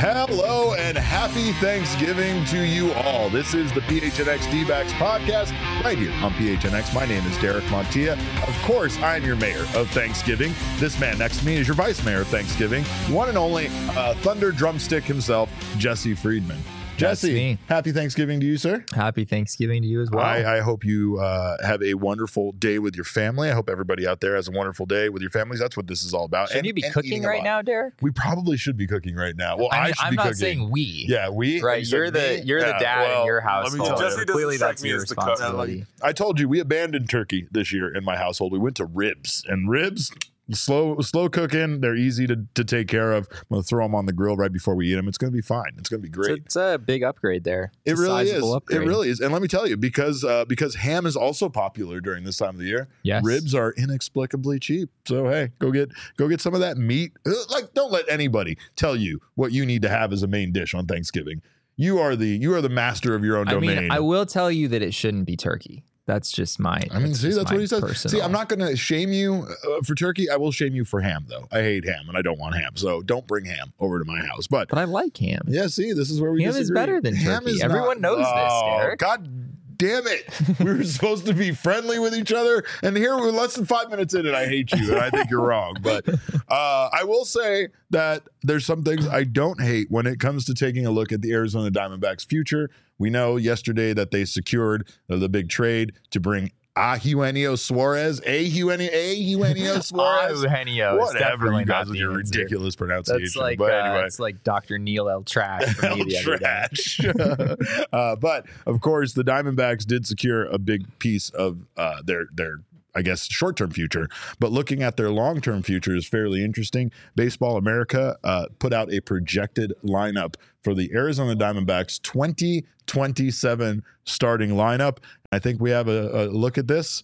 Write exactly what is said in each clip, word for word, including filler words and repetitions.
Hello and happy Thanksgiving to you all. This is the P H N X D-Backs podcast right here on P H N X. My name is Derek Montilla. Of course, I'm your mayor of Thanksgiving. This man next to me is your vice mayor of Thanksgiving, one and only uh, Thunder Drumstick himself, Jesse Friedman. Jesse, happy Thanksgiving to you, sir. Happy Thanksgiving to you as well. I, I hope you uh, have a wonderful day with your family. I hope everybody out there has a wonderful day with your families. That's what this is all about. Should and, you be and cooking right now, Derek? We probably should be cooking right now. Well, I, mean, I should I'm be not cooking. saying we. Yeah, we. Right, you you're the me? you're yeah, the dad well, in your let me household. tell you. So clearly, that's your responsibility. I told you we abandoned turkey this year in my household. We went to ribs, and ribs. Slow, slow cooking. They're easy to, to take care of. I'm going to throw them on the grill right before we eat them. It's going to be fine. It's going to be great. So it's a big upgrade there. It's it really is. Upgrade. It really is. And let me tell you, because uh, because ham is also popular during this time of the year. Yes. Ribs are inexplicably cheap. So hey, go get go get some of that meat. Like, don't let anybody tell you what you need to have as a main dish on Thanksgiving. You are the you are the master of your own I domain. mean, I will tell you that it shouldn't be turkey. That's just my. I mean, see, that's my what he says. personal. See, I'm not going to shame you uh, for turkey. I will shame you for ham, though. I hate ham, and I don't want ham. So don't bring ham over to my house. But but I like ham. Yeah, see, this is where we ham disagree. is better than ham turkey. Is Everyone not, knows oh, this, Derek. God damn it. We were supposed to be friendly with each other, and here we're less than five minutes in, and I hate you, and I think you're wrong. But uh, I will say that there's some things I don't hate when it comes to taking a look at the Arizona Diamondbacks' future. We know yesterday that they secured uh, the big trade to bring Eugenio Suarez, a Eugenio, a Eugenio Suarez, Eugenio, whatever you guys with your answer. ridiculous pronunciation. That's like but uh, anyway, it's like Doctor Neil L. Trash for me the other day. trash. uh, but of course, the Diamondbacks did secure a big piece of uh, their their. I guess, short-term future, but looking at their long-term future is fairly interesting. Baseball America uh, put out a projected lineup for the Arizona Diamondbacks twenty twenty-seven starting lineup. I think we have a, a look at this.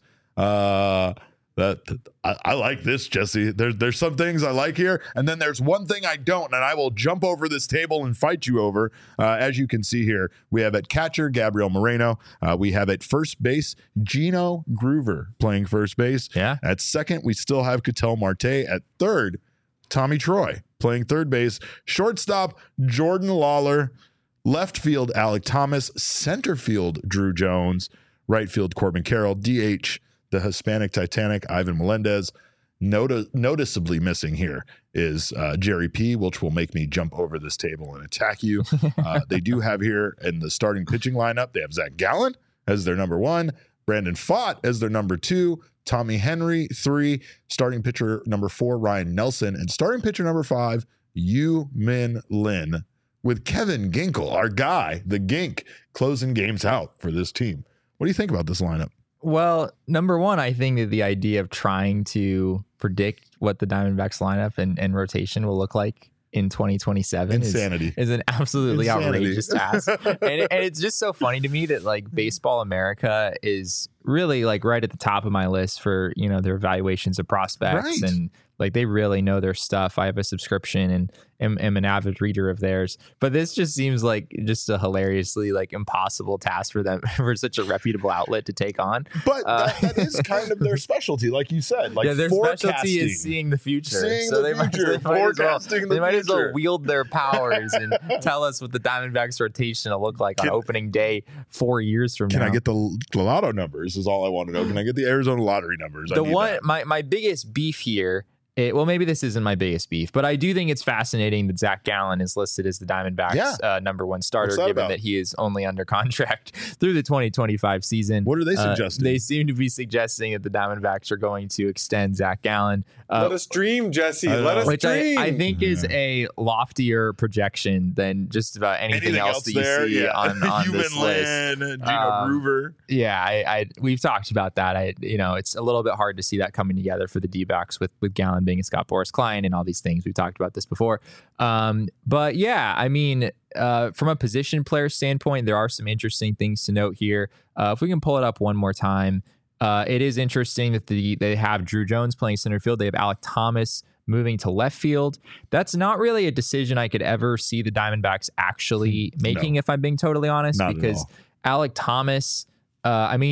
Uh, that I, I like this, Jesse. There's there's some things I like here, and then there's one thing I don't, and I will jump over this table and fight you over. Uh, as you can see here, we have at catcher Gabriel Moreno. Uh, we have at first base Gino Groover playing first base. Yeah. At second, we still have Ketel Marte. At third, Tommy Troy playing third base. Shortstop Jordan Lawler. Left field Alek Thomas. Center field Drew Jones. Right field Corbin Carroll. D H the Hispanic Titanic, Ivan Melendez. Noti- noticeably missing here is uh, Jerry P, which will make me jump over this table and attack you. Uh, they do have here in the starting pitching lineup, they have Zach Gallen as their number one, Brandon Pfaadt as their number two, Tommy Henry, three, starting pitcher number four, Ryan Nelson, and starting pitcher number five, Yu Min Lin, with Kevin Ginkel, our guy, the Gink, closing games out for this team. What do you think about this lineup? Well, number one, I think that the idea of trying to predict what the Diamondbacks lineup and, and rotation will look like in twenty twenty-seven Insanity. Is, is an absolutely Insanity. outrageous task. and, it, and it's just so funny to me that like Baseball America is really like right at the top of my list for, you know, their evaluations of prospects. Right. And like they really know their stuff. I have a subscription and am, am an avid reader of theirs. But this just seems like just a hilariously like impossible task for them for such a reputable outlet to take on. But Uh, that, that is kind of their specialty, like you said. Like yeah, their forecasting. specialty is seeing the future. Seeing so the they might, future, they might as well, forecasting the they might as well future. wield their powers and tell us what the Diamondbacks rotation will look like Can- on opening day four years from Can now. I get the, the lotto numbers is all I want to know. Can I get the Arizona lottery numbers? I the need one that. my, my biggest beef here It, well, maybe this isn't my biggest beef, but I do think it's fascinating that Zach Gallen is listed as the Diamondbacks' Yeah. uh, number one starter, What's that given about? that he is only under contract through the twenty twenty-five season. What are they Uh, suggesting? they seem to be suggesting that the Diamondbacks are going to extend Zach Gallen. Uh, Let us dream, Jesse. I Let know. us which dream. I, I think is a loftier projection than just about anything, Anything else, else that you there? see Yeah. on, on this Human list. Lin, Gino Um, Groover. Yeah, I, I we've talked about that. I you know it's a little bit hard to see that coming together for the D-backs with with Gallen being a Scott Boras Klein and all these things. We've talked about this before. Um, but yeah, I mean, uh, from a position player standpoint, there are some interesting things to note here. Uh, if we can pull it up one more time, uh, it is interesting that the they have Drew Jones playing center field. They have Alek Thomas moving to left field. That's not really a decision I could ever see the Diamondbacks actually making, No. if I'm being totally honest, Not at because all. Alek Thomas, uh, I mean,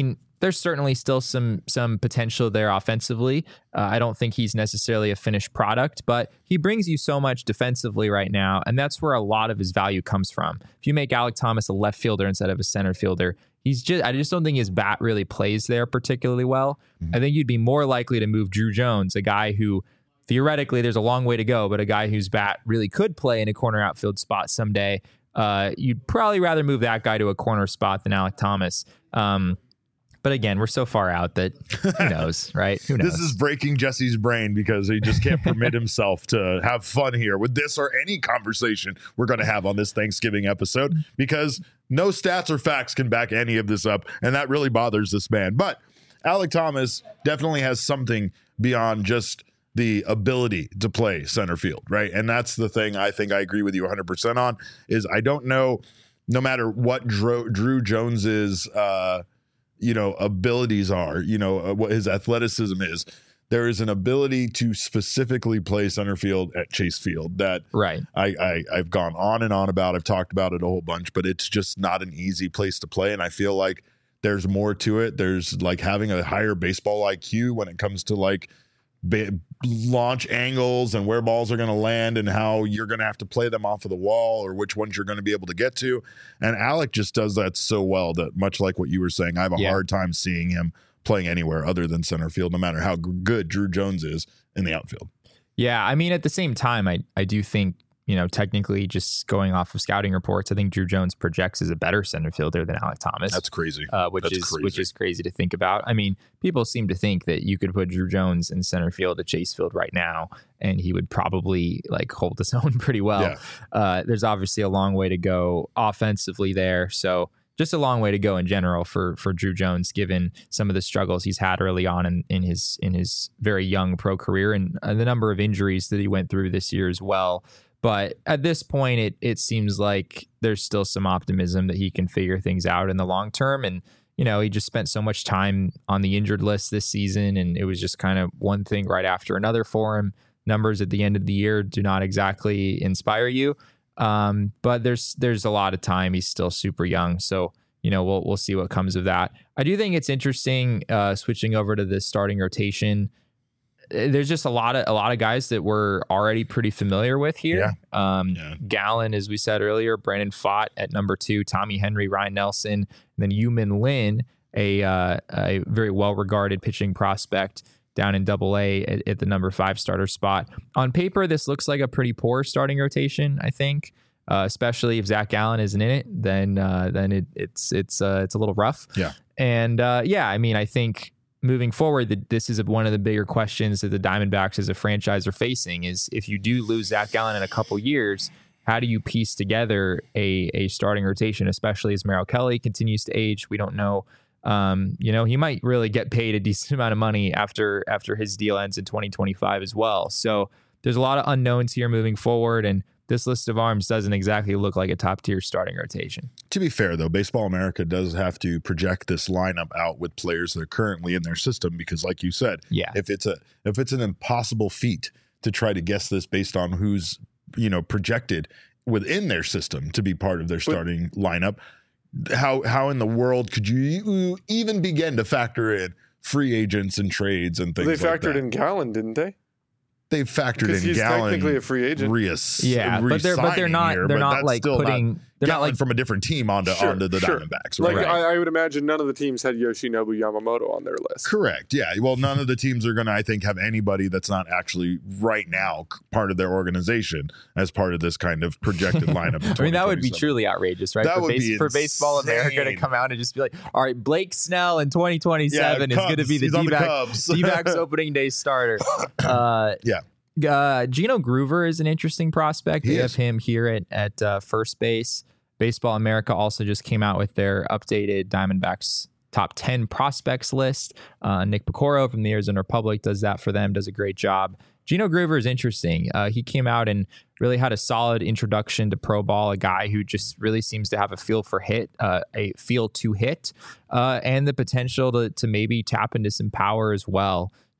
there's certainly still some some potential there offensively. Uh, I don't think he's necessarily a finished product, but he brings you so much defensively right now, and that's where a lot of his value comes from. If you make Alek Thomas a left fielder instead of a center fielder, he's just I just don't think his bat really plays there particularly well. Mm-hmm. I think you'd be more likely to move Drew Jones, a guy who theoretically there's a long way to go, but a guy whose bat really could play in a corner outfield spot someday. Uh, you'd probably rather move that guy to a corner spot than Alek Thomas. Um, But again, we're so far out that who knows, right? Who knows? This is breaking Jesse's brain because he just can't permit himself to have fun here with this or any conversation we're going to have on this Thanksgiving episode, because no stats or facts can back any of this up. And that really bothers this man. But Alek Thomas definitely has something beyond just the ability to play center field, right? And that's the thing I think I agree with you one hundred percent on is I don't know, no matter what Drew, Drew Jones's, uh, you know, abilities are, you know, uh, what his athleticism is, there is an ability to specifically play center field at Chase Field that right. I, I, I've gone on and on about. I've talked about it a whole bunch, but it's just not an easy place to play. And I feel like there's more to it. There's like having a higher baseball I Q when it comes to like ba- launch angles and where balls are going to land and how you're going to have to play them off of the wall or which ones you're going to be able to get to. And Alek just does that so well that, much like what you were saying, I have a yeah. hard time seeing him playing anywhere other than center field, no matter how good Drew Jones is in the outfield. Yeah, I mean, at the same time, I I do think, you know, technically just going off of scouting reports, I think Drew Jones projects as a better center fielder than Alek Thomas. That's crazy. Uh, which That's is crazy. which is crazy to think about. I mean, people seem to think that you could put Drew Jones in center field at Chase Field right now, and he would probably like hold his own pretty well. Yeah. Uh, there's obviously a long way to go offensively there. So just a long way to go in general for for Drew Jones, given some of the struggles he's had early on in, in his in his very young pro career and uh, the number of injuries that he went through this year as well. But at this point, it it seems like there's still some optimism that he can figure things out in the long term. And, you know, he just spent so much time on the injured list this season, and it was just kind of one thing right after another for him. Numbers at the end of the year do not exactly inspire you. Um, but there's there's a lot of time. He's still super young. So, you know, we'll we'll see what comes of that. I do think it's interesting uh, switching over to the starting rotation. There's just a lot of a lot of guys that we're already pretty familiar with here. Yeah. Um, yeah. Gallen, as we said earlier, Brandon Pfaadt at number two, Tommy Henry, Ryan Nelson, and then Yu-Min Lin, a uh, a very well-regarded pitching prospect down in Double A at, at the number five starter spot. On paper, this looks like a pretty poor starting rotation, I think. Uh, especially if Zach Gallen isn't in it, then uh, then it, it's it's uh, it's a little rough. Yeah. And uh, yeah, I mean, I think moving forward, that this is one of the bigger questions that the Diamondbacks as a franchise are facing is if you do lose Zach Gallen in a couple years, how do you piece together a, a starting rotation, especially as Merrill Kelly continues to age? We don't know. Um, you know, he might really get paid a decent amount of money after after his deal ends in twenty twenty-five as well. So there's a lot of unknowns here moving forward, and this list of arms doesn't exactly look like a top-tier starting rotation. To be fair, though, Baseball America does have to project this lineup out with players that are currently in their system because, like you said, yeah. if it's a if it's an impossible feat to try to guess this based on who's, you know, projected within their system to be part of their starting but, lineup, how how in the world could you even begin to factor in free agents and trades and things well, like that? They factored like in Gallen, didn't they? They factored because in he's Gallen. Technically a free agent. Reas, yeah, but they're but they're not here, they're not like putting not they're Gallen not like from a different team onto sure, onto the sure. Diamondbacks. Like right? I, I would imagine none of the teams had Yoshinobu Yamamoto on their list. Correct. Yeah. Well, none of the teams are going to, I think, have anybody that's not actually right now part of their organization as part of this kind of projected lineup. I mean, that would be truly outrageous, right? That for, would base, be for Baseball America to come out and just be like, all right, Blake Snell in twenty twenty-seven yeah, is going to be the D-back, D-backs opening day starter. Uh, yeah. Uh, Gino Groover is an interesting prospect. He They is. have him here at, at uh, first base. Baseball America also just came out with their updated Diamondbacks top ten prospects list. Uh, Nick Picoro from the Arizona Republic does that for them, does a great job. Gino Groover is interesting. Uh, he came out and really had a solid introduction to pro ball, a guy who just really seems to have a feel for hit, uh, a feel to hit, uh, and the potential to, to maybe tap into some power as well.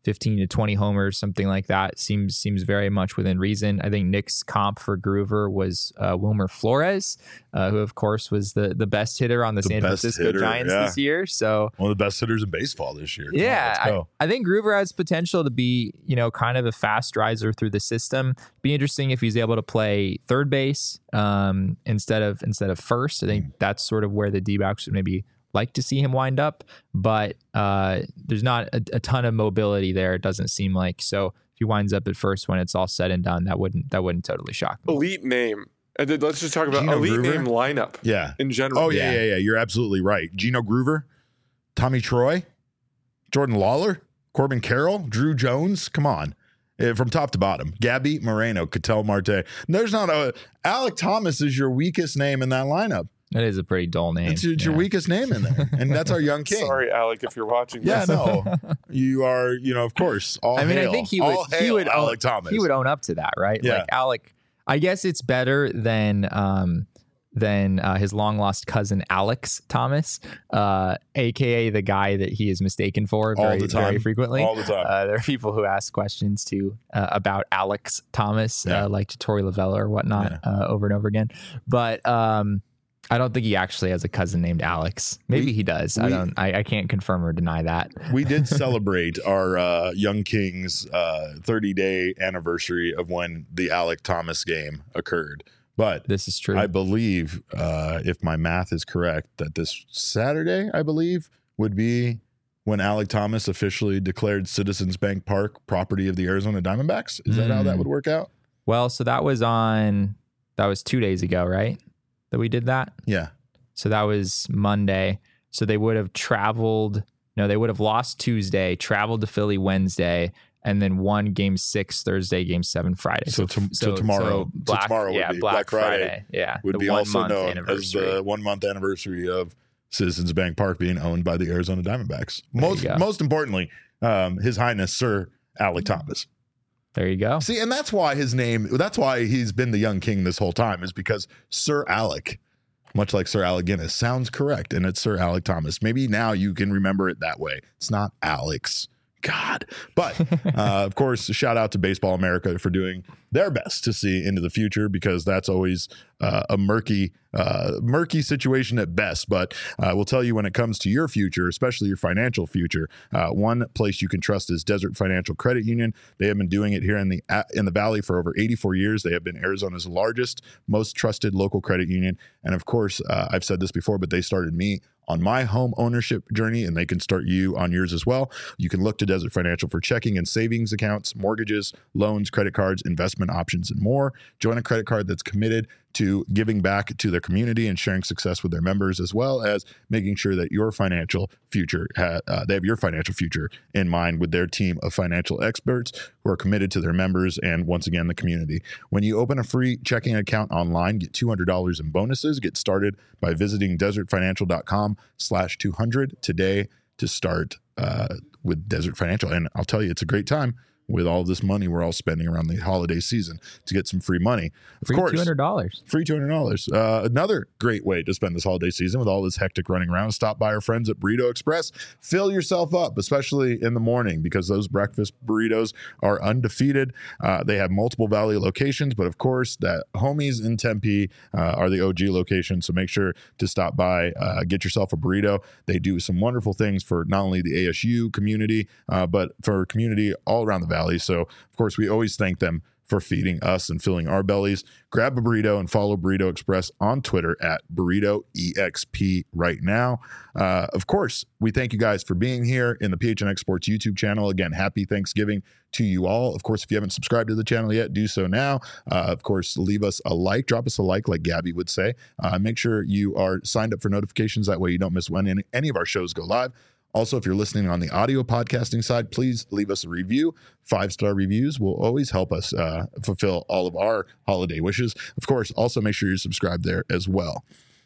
fifteen to twenty homers, something like that. Seems seems very much within reason. I think Nick's comp for Groover was uh, Wilmer Flores, uh, who of course was the the best hitter on the, the San Francisco hitter, Giants yeah. this year. So one of the best hitters in baseball this year. Yeah, on, I, I think Groover has potential to be, you know, kind of a fast riser through the system. Be interesting if he's able to play third base um, instead of instead of first. I think mm. that's sort of where the D-backs would maybe like to see him wind up, but uh, there's not a, a ton of mobility there. It doesn't seem like. So if he winds up at first when it's all said and done, that wouldn't that wouldn't totally shock me. Elite name. And then let's just talk about Gino elite Groover? Name lineup. Yeah, in general. Oh yeah, yeah, yeah, yeah. You're absolutely right. Gino Groover, Tommy Troy, Jordan Lawler, Corbin Carroll, Drew Jones. Come on. From top to bottom, Gabby Moreno, Ketel Marte. There's not a Alek Thomas is your weakest name in that lineup. That is a pretty dull name. It's, it's yeah. your weakest name in there, and that's our young king. Sorry, Alec, if you're watching. Yeah, this. no, you are. You know, of course. All I mean, hail, I think he would. He would. Alek own, Thomas. He would own up to that, right? Yeah. Like Alec. I guess it's better than um than uh, his long lost cousin Alex Thomas, uh, aka the guy that he is mistaken for very, All the time. very frequently. All the time. Uh, there are people who ask questions too uh, about Alex Thomas, Yeah. uh, like to Tori Lavella or whatnot, Yeah. uh, over and over again. But um, I don't think he actually has a cousin named Alex. Maybe We- he does. we- I don't. I, I can't confirm or deny that. We did celebrate our uh, young king's uh, thirty day anniversary of when the Alek Thomas game occurred. But This is true. I believe, uh, if my math is correct, that this Saturday, I believe, would be when Alek Thomas officially declared Citizens Bank Park property of the Arizona Diamondbacks. Is that how that Mm. would work out? Well, so that was on. That was two days ago, right? That we did that. Yeah. So that was Monday. So they would have traveled. No, they would have lost Tuesday, traveled to Philly Wednesday, and then won Game Six Thursday, Game Seven Friday. So, to, so tomorrow, Black, so tomorrow would yeah, be Black, Black Friday. Friday. Yeah, Would the be one also month known as anniversary. the one month anniversary of Citizens Bank Park being owned by the Arizona Diamondbacks. There Most you go. most importantly, um, His Highness Sir Alek Thomas. There you go. See, and that's why his name, that's why he's been the young king this whole time, is because Sir Alec, much like Sir Alec Guinness, sounds correct, and it's Sir Alek Thomas. Maybe now you can remember it that way. It's not Alex. God. But, uh, of course, shout out to Baseball America for doing their best to see into the future, because that's always uh, a murky, uh, murky situation at best. But uh, we'll tell you, when it comes to your future, especially your financial future, uh, one place you can trust is Desert Financial Credit Union. They have been doing it here in the in the Valley for over eighty-four years. They have been Arizona's largest, most trusted local credit union. And of course, uh, I've said this before, but they started me on my home ownership journey, and they can start you on yours as well. You can look to Desert Financial for checking and savings accounts, mortgages, loans, credit cards, investment options, and more. Join a credit card that's committed to giving back to their community and sharing success with their members, as well as making sure that your financial future, ha- uh, they have your financial future in mind with their team of financial experts who are committed to their members and, once again, the community. When you open a free checking account online, get two hundred dollars in bonuses. Get started by visiting desertfinancial.com slash 200 today to start uh, with Desert Financial. And I'll tell you, it's a great time with all this money we're all spending around the holiday season to get some free money. Of Free course, two hundred dollars. free two hundred dollars. Uh, another great way to spend this holiday season with all this hectic running around. Stop by our friends at Burrito Express. Fill yourself up, especially in the morning, because those breakfast burritos are undefeated. Uh, they have multiple Valley locations, but of course, that homies in Tempe uh, are the O G location. So make sure to stop by, uh, get yourself a burrito. They do some wonderful things for not only the A S U community, uh, but for community all around the Valley. So, of course, we always thank them for feeding us and filling our bellies. Grab a burrito and follow Burrito Express on Twitter at Burrito E X P right now. Uh, of course, we thank you guys for being here in the P H N X Sports YouTube channel. Again, happy Thanksgiving to you all. Of course, if you haven't subscribed to the channel yet, do so now. Uh, of course, leave us a like, drop us a like, like Gabby would say. Uh, make sure you are signed up for notifications. That way you don't miss when any, any of our shows go live. Also, if you're listening on the audio podcasting side, please leave us a review. Five-star reviews will always help us uh, fulfill all of our holiday wishes. Of course, also make sure you're subscribed there as well.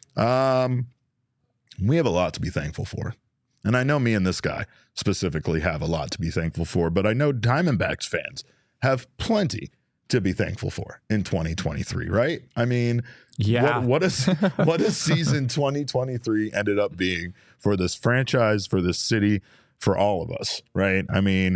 Um, we have a lot to be thankful for. And I know me and this guy specifically have a lot to be thankful for, but I know Diamondbacks fans have plenty to be thankful for in twenty twenty-three, right? I mean, Yeah. what, what is what a season twenty twenty-three ended up being for this franchise, for this city, for all of us, right? I mean,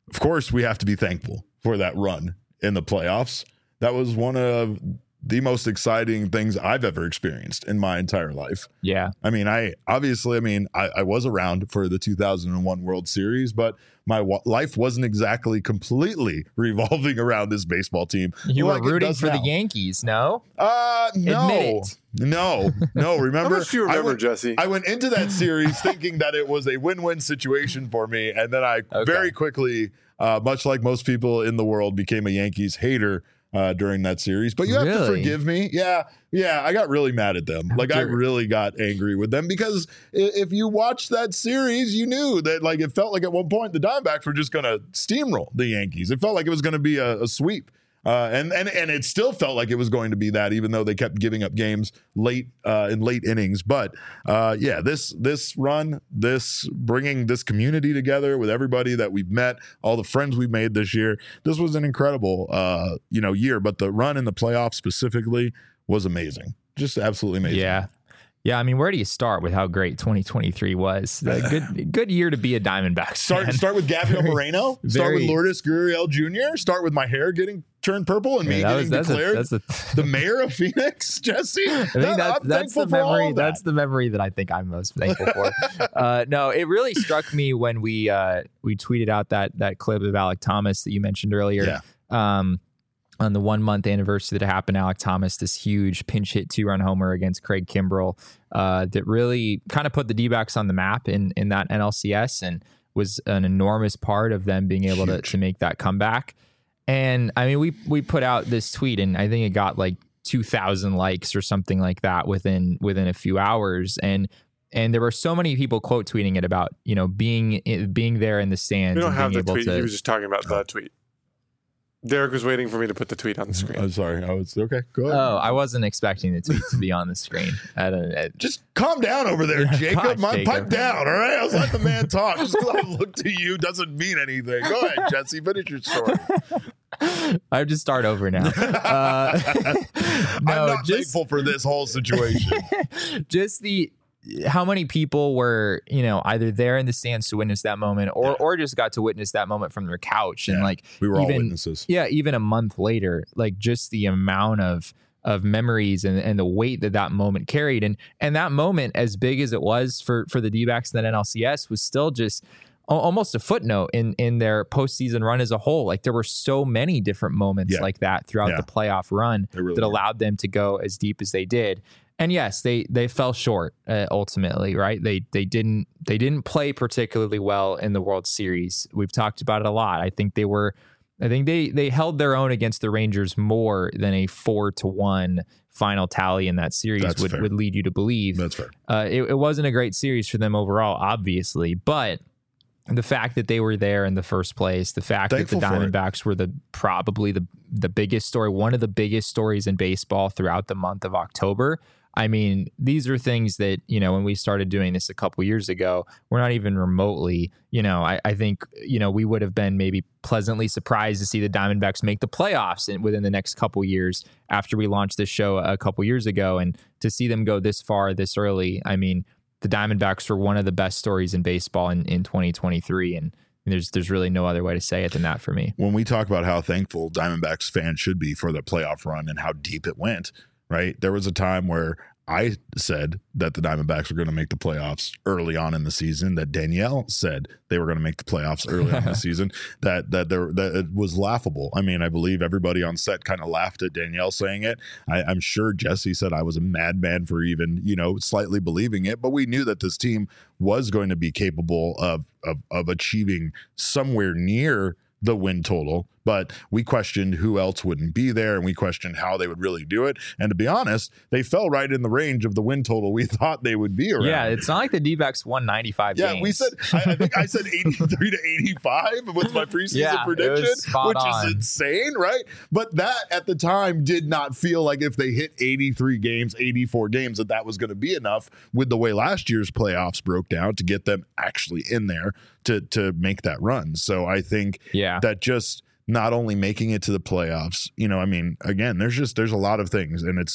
of course, we have to be thankful for that run in the playoffs. That was one of the most exciting things I've ever experienced in my entire life. Yeah. I mean, I obviously, I mean, I, I was around for the two thousand one World Series, but my w- life wasn't exactly completely revolving around this baseball team. You like were it rooting does for now. the Yankees, no? Uh, no, Admit it. no, no. How Remember, much do you I remember, went, Jesse? I went into that series thinking that it was a win-win situation for me, and then I Okay. very quickly, uh, much like most people in the world, became a Yankees hater uh, during that series. But you have to Really? forgive me. Yeah, yeah. I got really mad at them. Like I After- really got angry with them because i- if you watched that series, you knew that like it felt like at one point the Diamondbacks were just going to steamroll the Yankees. It felt like it was going to be a, a sweep. Uh, and and and it still felt like it was going to be that, even though they kept giving up games late uh, in late innings. But uh, yeah, this this run, this bringing this community together with everybody that we've met, all the friends we've made this year, this was an incredible uh, you know year. But the run in the playoffs specifically was amazing, just absolutely amazing. Yeah. Yeah, I mean, where do you start with how great twenty twenty-three was? A good good year to be a Diamondbacks Start fan. start with Gabriel Moreno. Start with very- Lourdes Gurriel Junior Start with my hair getting turned purple and me Yeah, that was- getting that's a- declared that's a- the mayor of Phoenix, Jesse. I think that's, I'm that's the thankful for all memory. of that. That's the memory that I think I'm most thankful for. uh, no, it really struck me when we uh, we tweeted out that that clip of Alec Thomas that you mentioned earlier. Yeah. Um, on the one month anniversary that happened, Alec Thomas, this huge pinch hit two run homer against Craig Kimbrell, uh, that really kind of put the D-backs on the map in in that N L C S and was an enormous part of them being able to, Huge. to make that comeback. And I mean, we we put out this tweet, and I think it got like two thousand likes or something like that within within a few hours. And and there were so many people quote tweeting it about, you know, being being there in the stands We don't and have being the able tweet. to. He was just talking about the tweet. Derek was waiting for me to put the tweet on the screen. I'm sorry. I was okay. Go ahead. Oh, I wasn't expecting the tweet to be on the screen. I don't, I, Just calm down over there, Yeah, Jacob. gosh, My Jacob. pipe down. All right. I was let the man talk. Just because I look to you doesn't mean anything. Go ahead, Jesse. Finish your story. I have to start over now. Uh, I'm no, not just thankful for this whole situation. just the how many people were, you know, either there in the stands to witness that moment, or Yeah. or just got to witness that moment from their couch, and Yeah, like We were all even witnesses. yeah, even a month later, like just the amount of of memories and, and the weight that that moment carried, and and that moment, as big as it was for for the D-backs in that N L C S, was still just al- almost a footnote in in their postseason run as a whole. Like there were so many different moments Yeah. like that throughout Yeah. the playoff run They really that were. allowed them to go as deep as they did. And yes, they they fell short uh, ultimately, right? They they didn't they didn't play particularly well in the World Series. We've talked about it a lot. I think they were I think they they held their own against the Rangers more than a four to one final tally in that series That's would, fair. would lead you to believe. That's fair. Uh, it, it wasn't a great series for them overall, obviously, but the fact that they were there in the first place, the fact Thankful that for the it. Diamondbacks were the probably the the biggest story, one of the biggest stories in baseball throughout the month of October. I mean, these are things that, you know, when we started doing this a couple years ago, we're not even remotely, you know, I, I think, you know, we would have been maybe pleasantly surprised to see the Diamondbacks make the playoffs in, within the next couple years after we launched this show a couple years ago. And to see them go this far, this early, I mean, the Diamondbacks were one of the best stories in baseball in, in twenty twenty-three. And there's there's really no other way to say it than that for me. When we talk about how thankful Diamondbacks fans should be for the playoff run and how deep it went, right? There was a time where I said that the Diamondbacks were going to make the playoffs early on in the season, that Danielle said they were going to make the playoffs early on in the season, that that there that it was laughable. I mean, I believe everybody on set kind of laughed at Danielle saying it. I, I'm sure Jesse said I was a madman for even, you know, slightly believing it, but we knew that this team was going to be capable of of, of achieving somewhere near the win total, but we questioned who else wouldn't be there, and we questioned how they would really do it. And to be honest, they fell right in the range of the win total we thought they would be around. Yeah, it's not like the D-backs won ninety-five Yeah, games. we said, I, I think I said eighty-three to eighty-five was my preseason Yeah, it was prediction, spot which on. is insane, right? But that at the time did not feel like if they hit eighty-three games, eighty-four games, that that was going to be enough with the way last year's playoffs broke down to get them actually in there to, to make that run. So I think yeah. that just not only making it to the playoffs, you know, I mean, again, there's just, there's a lot of things, and it's,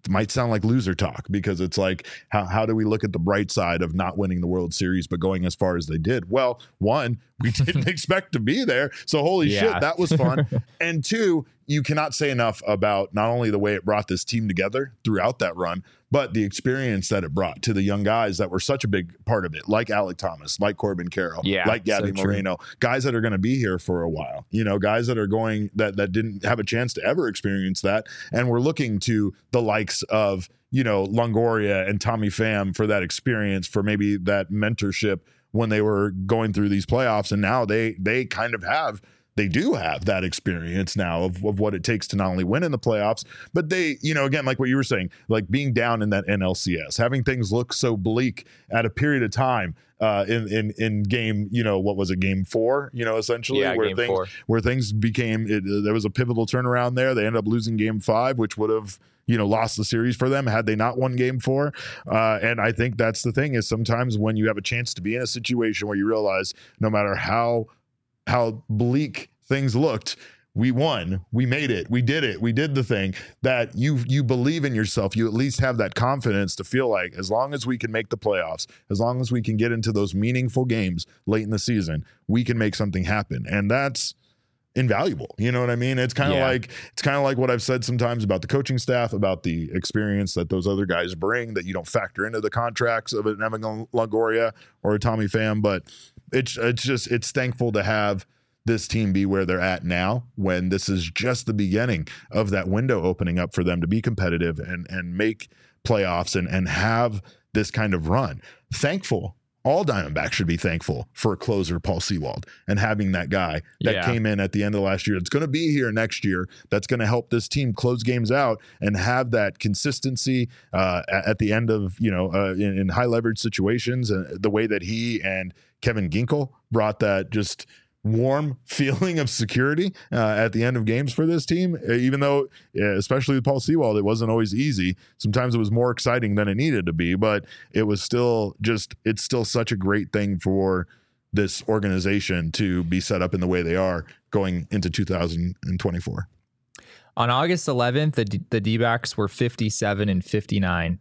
might sound like loser talk because it's like, how, how do we look at the bright side of not winning the World Series but going as far as they did? Well, one, we didn't expect to be there, so holy Yeah. shit, that was fun. And two, you cannot say enough about not only the way it brought this team together throughout that run, but the experience that it brought to the young guys that were such a big part of it, like Alec Thomas, like Corbin Carroll, Yeah, like Gabby so true. Moreno, guys that are going to be here for a while, you know, guys that are going that that didn't have a chance to ever experience that, and we're looking to the likes of, you know, Longoria and Tommy Pham for that experience, for maybe that mentorship when they were going through these playoffs, and now they they kind of have. They do have that experience now of, of what it takes to not only win in the playoffs, but they, you know, again, like what you were saying, like being down in that N L C S, having things look so bleak at a period of time uh, in, in, in game, you know, what was it, game four, you know, essentially Yeah, where game things, four. where things became, it, there was a pivotal turnaround there. They ended up losing game five, which would have, you know, lost the series for them had they not won game four. Uh, and I think that's the thing is sometimes when you have a chance to be in a situation where you realize no matter how how bleak things looked, we won, we made it, we did it, we did the thing, that you you believe in yourself. You at least have that confidence to feel like as long as we can make the playoffs, as long as we can get into those meaningful games late in the season, we can make something happen. And that's invaluable. You know what I mean? It's kind of Yeah. like it's kind of like what I've said sometimes about the coaching staff, about the experience that those other guys bring that you don't factor into the contracts of an Evan Longoria or a Tommy Pham. But it's it's just it's thankful to have this team be where they're at now, when this is just the beginning of that window opening up for them to be competitive and and make playoffs and and have this kind of run. Thankful. All Diamondbacks should be thankful for closer Paul Sewald and having that guy that Yeah. came in at the end of last year. It's going to be here next year. That's going to help this team close games out and have that consistency uh, at at the end of, you know, uh, in, in high leverage situations. And the way that he and Kevin Ginkel brought that just warm feeling of security uh, at the end of games for this team, even though, uh, especially with Paul Sewald, it wasn't always easy. Sometimes it was more exciting than it needed to be, but it was still just, it's still such a great thing for this organization to be set up in the way they are going into two thousand twenty-four. On August eleventh, the D- the D-backs were fifty-seven and fifty-nine.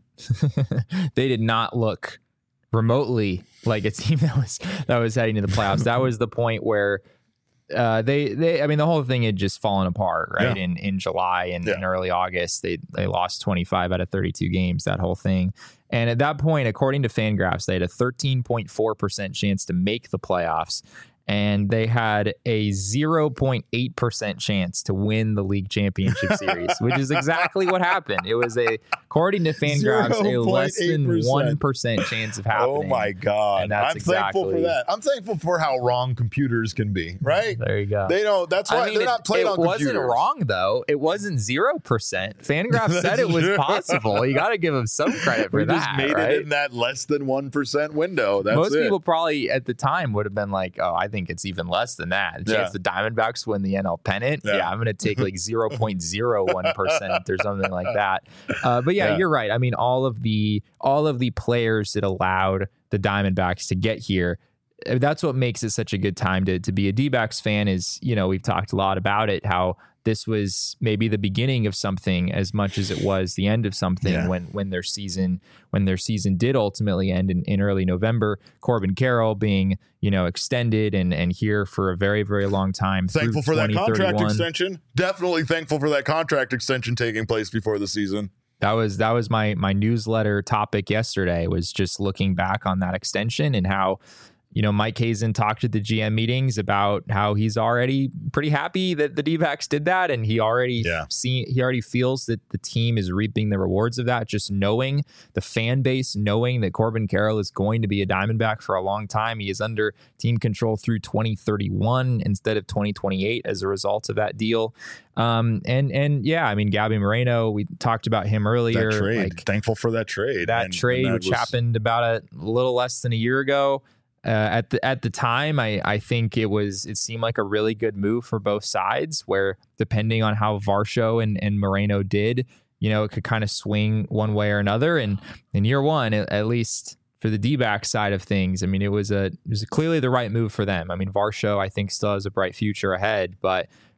They did not look remotely like a team that was that was heading to the playoffs. That was the point where uh, they they I mean the whole thing had just fallen apart, right? Yeah. In in July and Yeah. in early August, they they lost twenty-five out of thirty-two games. That whole thing, and at that point, according to Fangraphs, they had a thirteen point four percent chance to make the playoffs. And they had a zero point eight percent chance to win the league championship series, which is exactly what happened. It was a, according to Fangraphs, a less than one percent chance of happening. Oh my God. And that's I'm thankful for exactly- that. I'm thankful for how wrong computers can be, right? There you go. They don't, that's why I mean, they're it, not playing it on wasn't computers. wrong, though. It wasn't zero percent. Fangraphs said That's it was true. possible. You got to give them some credit for We that, just made right? it in that less than one percent window. That's Most it. people probably at the time would have been like, oh, I think it's even less than that. The Yeah. chance the Diamondbacks win the N L pennant, Yeah. yeah, I'm going to take like zero point zero one percent or something like that. Uh, but yeah, Yeah. you're right. I mean, all of the all of the players that allowed the Diamondbacks to get here, uh, that's what makes it such a good time to to be a D-backs fan. Is, you know, we've talked a lot about it, how this was maybe the beginning of something as much as it was the end of something. Yeah. when when their season when their season did ultimately end in, in early November. Corbin Carroll being, you know, extended and and here for a very, very long time. Thankful through for that contract twenty thirty-one. extension. Definitely thankful for that contract extension taking place before the season. That was that was my my newsletter topic yesterday, was just looking back on that extension and how, you know, Mike Hazen talked at the G M meetings about how he's already pretty happy that the D-backs did that, and he already Yeah. see he already feels that the team is reaping the rewards of that. Just knowing the fan base, knowing that Corbin Carroll is going to be a Diamondback for a long time. He is under team control through twenty thirty-one instead of twenty twenty-eight as a result of that deal. Um, and and yeah, I mean, Gabby Moreno, we talked about him earlier. That trade. Like, Thankful for that trade. that And- trade, and that which was- happened about a little less than a year ago. Uh, at the at the time, I, I think it was it seemed like a really good move for both sides, where depending on how Varsho and, and Moreno did, you know, it could kind of swing one way or another. And in year one, at, at least for the D-back side of things, I mean, it was a it was clearly the right move for them. I mean, Varsho, I think, still has a bright future ahead, but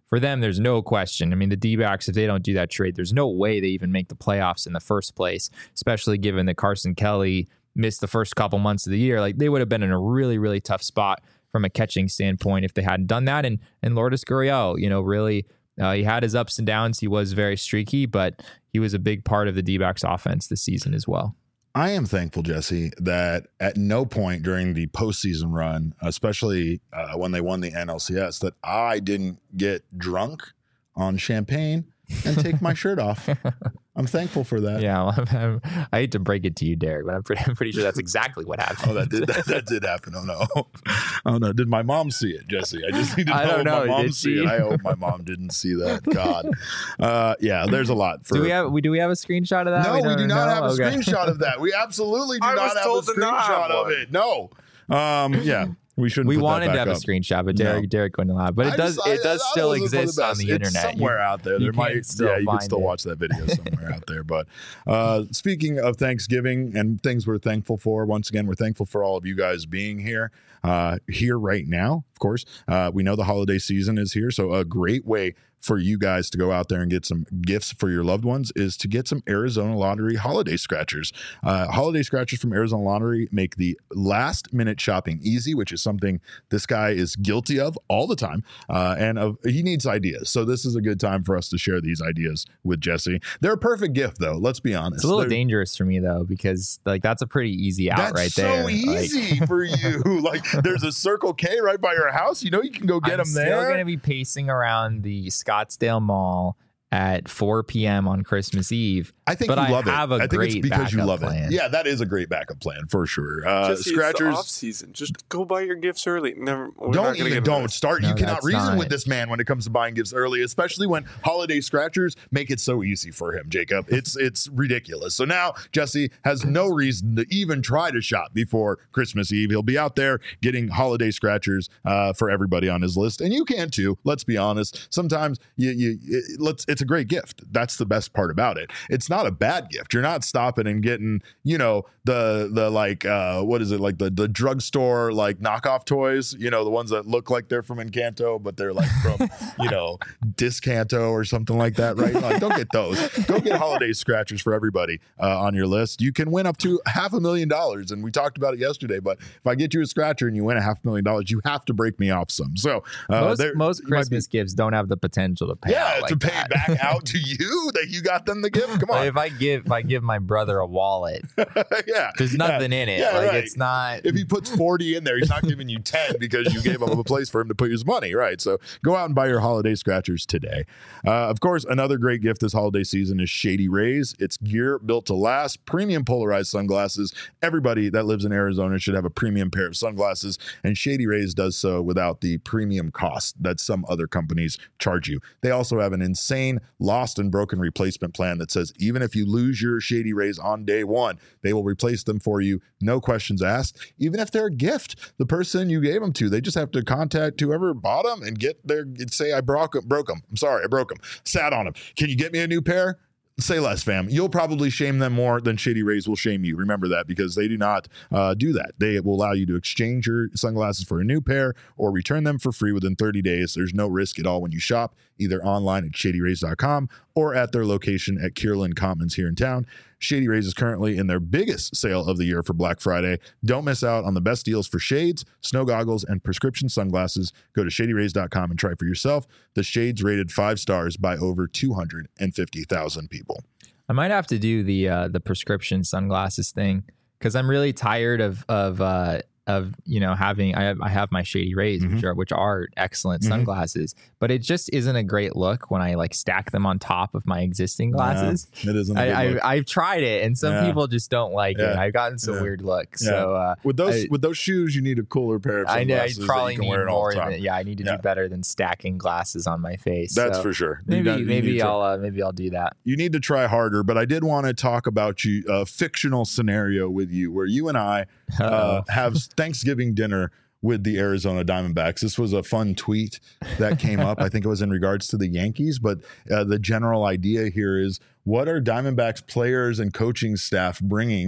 for them, there's no question. I mean, the D-backs, if they don't do that trade, there's no way they even make the playoffs in the first place, especially given that Carson Kelly missed the first couple months of the year. Like, they would have been in a really, really tough spot from a catching standpoint if they hadn't done that. And and Lourdes Gurriel, you know, really, uh, he had his ups and downs. He was very streaky, but he was a big part of the D-backs offense this season as well. I am thankful, Jesse, that at no point during the postseason run, especially uh, when they won the N L C S, that I didn't get drunk on champagne and take my shirt off. I'm thankful for that. Yeah, well, I'm, I'm, I hate to break it to you, Derek, but I'm pretty, I'm pretty sure that's exactly what happened. Oh, that did that, that did happen. Oh no, oh no. Did my mom see it, Jesse? I just need to know, I don't if know. my mom Did see she? it. I hope my mom didn't see that. God, uh, yeah. There's a lot. For, do we have we do we have a screenshot of that? No, we, don't do not know? have a Okay. screenshot of that. We absolutely do I not was have told a to not screenshot have of one. it. No. Um, yeah. We shouldn't. We put wanted that to back have up. a screenshot, but Derek No. Derek wouldn't allow it. But it I does just- it does I- I still was for the exist on best. the It's internet. somewhere You- out there. you There can might, still yeah, you can find still it. watch that video somewhere out there. But uh, speaking of Thanksgiving and things we're thankful for, once again, we're thankful for all of you guys being here, uh, here right now. Of course, uh, we know the holiday season is here, so a great way for you guys to go out there and get some gifts for your loved ones is to get some Arizona Lottery holiday scratchers. Uh, holiday scratchers from Arizona Lottery make the last minute shopping easy, which is something this guy is guilty of all the time. Uh, and of, he needs ideas. So this is a good time for us to share these ideas with Jesse. They're a perfect gift, though. Let's be honest. It's a little They're- dangerous for me though, because like that's a pretty easy out That's right so there. Like, easy for you. Like, there's a Circle K right by your house. You know, you can go get I'm them still there. going to be pacing around the Scottsdale Mall at four p.m. on Christmas Eve. I think but you I love have it. a I think it's great because you backup love plan. it. Yeah, that is a great backup plan for sure. Uh, Jesse, scratchers. It's the off season. Just go buy your gifts early. Never. we're not Don't gonna even get into don't this. start. No, you cannot that's reason not. with this man when it comes to buying gifts early, especially when holiday scratchers make it so easy for him, Jacob. It's it's ridiculous. So now Jesse has no reason to even try to shop before Christmas Eve. He'll be out there getting holiday scratchers uh, for everybody on his list, and you can too. Let's be honest. Sometimes you you it, let's. It's a great gift. That's the best part about it. It's not a bad gift. You're not stopping and getting, you know, the the like uh what is it, like the the drugstore like knockoff toys, you know, the ones that look like they're from Encanto but they're like from you know Discanto or something like that, right? Like, don't get those. Go get holiday scratchers for everybody uh, on your list. You can win up to half a million dollars, and we talked about it yesterday. But if I get you a scratcher and you win a half million dollars, you have to break me off some. So uh, most there most might be- Christmas gifts don't have the potential to pay yeah, out like to pay that. back out to you that you got them the gift. Come Like, on. if I give if I give my brother a wallet, Yeah. there's nothing in it. Yeah, like right. it's not. If he puts forty in there, he's not giving you ten because you gave him a place for him to put his money, right? So go out and buy your holiday scratchers today. Uh, of course, another great gift this holiday season is Shady Rays. It's gear built to last, premium polarized sunglasses. Everybody that lives in Arizona should have a premium pair of sunglasses, and Shady Rays does so without the premium cost that some other companies charge you. They also have an insane lost and broken replacement plan that says even if you lose your Shady Rays on day one, they will replace them for you, no questions asked. Even if they're a gift, the person you gave them to, they just have to contact whoever bought them and get their say, I broke them, broke them. I'm sorry, I broke them. Sat on them. Can you get me a new pair? Say less, fam. You'll probably shame them more than Shady Rays will shame you. Remember that, because they do not uh, do that. They will allow you to exchange your sunglasses for a new pair or return them for free within thirty days. There's no risk at all when you shop, either online at shady rays dot com or at their location at Kierland Commons here in town. Shady Rays is currently in their biggest sale of the year for Black Friday. Don't miss out on the best deals for shades, snow goggles, and prescription sunglasses. Go to shady rays dot com and try for yourself. The shades rated five stars by over two hundred fifty thousand people. I might have to do the uh, the prescription sunglasses thing because I'm really tired of of uh, of you know having I have I have my Shady Rays, Mhm. which are which are excellent Mhm. sunglasses, but it just isn't a great look when I like stack them on top of my existing glasses. Yeah, it isn't a good I, look. I I've tried it, and some Yeah. people just don't like it. Yeah. I've gotten some Yeah. weird look. Yeah. So uh, With those I- with those shoes, you need a cooler pair of I know I sunglasses. that probably you can need wear it all more the time. than yeah. I need to Yeah. do better than stacking glasses on my face. That's So for sure. You maybe got- you need maybe to try- I'll uh, maybe I'll do that. you need to try harder, but I did want to talk about you a fictional scenario with you where you and I uh, Uh-oh. have Thanksgiving dinner with the Arizona Diamondbacks. This was a fun tweet that came up. I think it was in regards to the Yankees, but uh, the general idea here is, what are Diamondbacks players and coaching staff bringing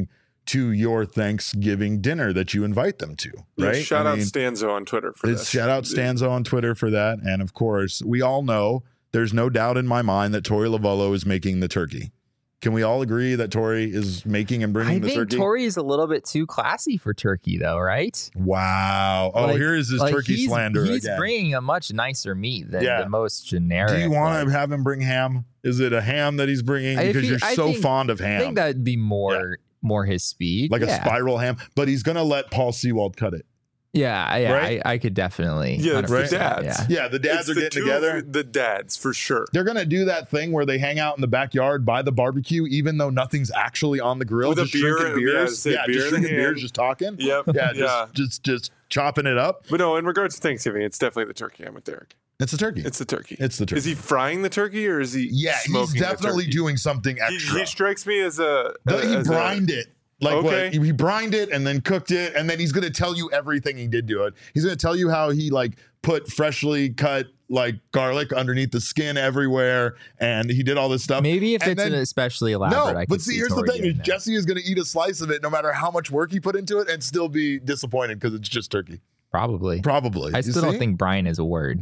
to your Thanksgiving dinner that you invite them to, right? Yeah, shout I out mean, Stanzo on Twitter for it's this. shout out Stanzo on Twitter for that. And of course, we all know there's no doubt in my mind that Tori Lavollo is making the turkey. Can we all agree that Tori is making and bringing I the think turkey? Tori is a little bit too classy for turkey, though, right? Wow. Oh, Like- here is his like turkey he's, slander He's again. bringing a much nicer meat than Yeah. the most generic. Do you want like- to have him bring ham? Is it a ham that he's bringing? If Because he- you're I so think- fond of I ham. think that'd be more more his speed. like yeah. a spiral ham. But he's going to let Paul Sewald cut it. Yeah, yeah, Right? I, I could definitely. Yeah, it's the one hundred percent, dads. Yeah. Yeah, the dads It's are the getting two of together. The dads, for sure. They're going to do that thing where they hang out in the backyard by the barbecue, even though nothing's actually on the grill. With a just beer, drinking yeah, beers. say Yeah, beer just in drinking hand. beers, just talking. Yep. Yeah, just, yeah. just just chopping it up. But no, in regards to Thanksgiving, it's definitely the turkey. I'm with Derek. It's a turkey. It's the turkey. It's the turkey. Is he frying the turkey or is he yeah, smoking he's the definitely turkey? doing something He, extra. he strikes me as a. No, he as a- brined it. Like Okay. what? He brined it and then cooked it, and then he's going to tell you everything he did to it. He's going to tell you how he like put freshly cut like garlic underneath the skin everywhere, and he did all this stuff. Maybe if And it's then- an especially elaborate. No, I but could see, here's the Tori thing: doing is that. Jesse is going to eat a slice of it, no matter how much work he put into it, and still be disappointed because it's just turkey. Probably. Probably. I You still don't see? think Brian is a word.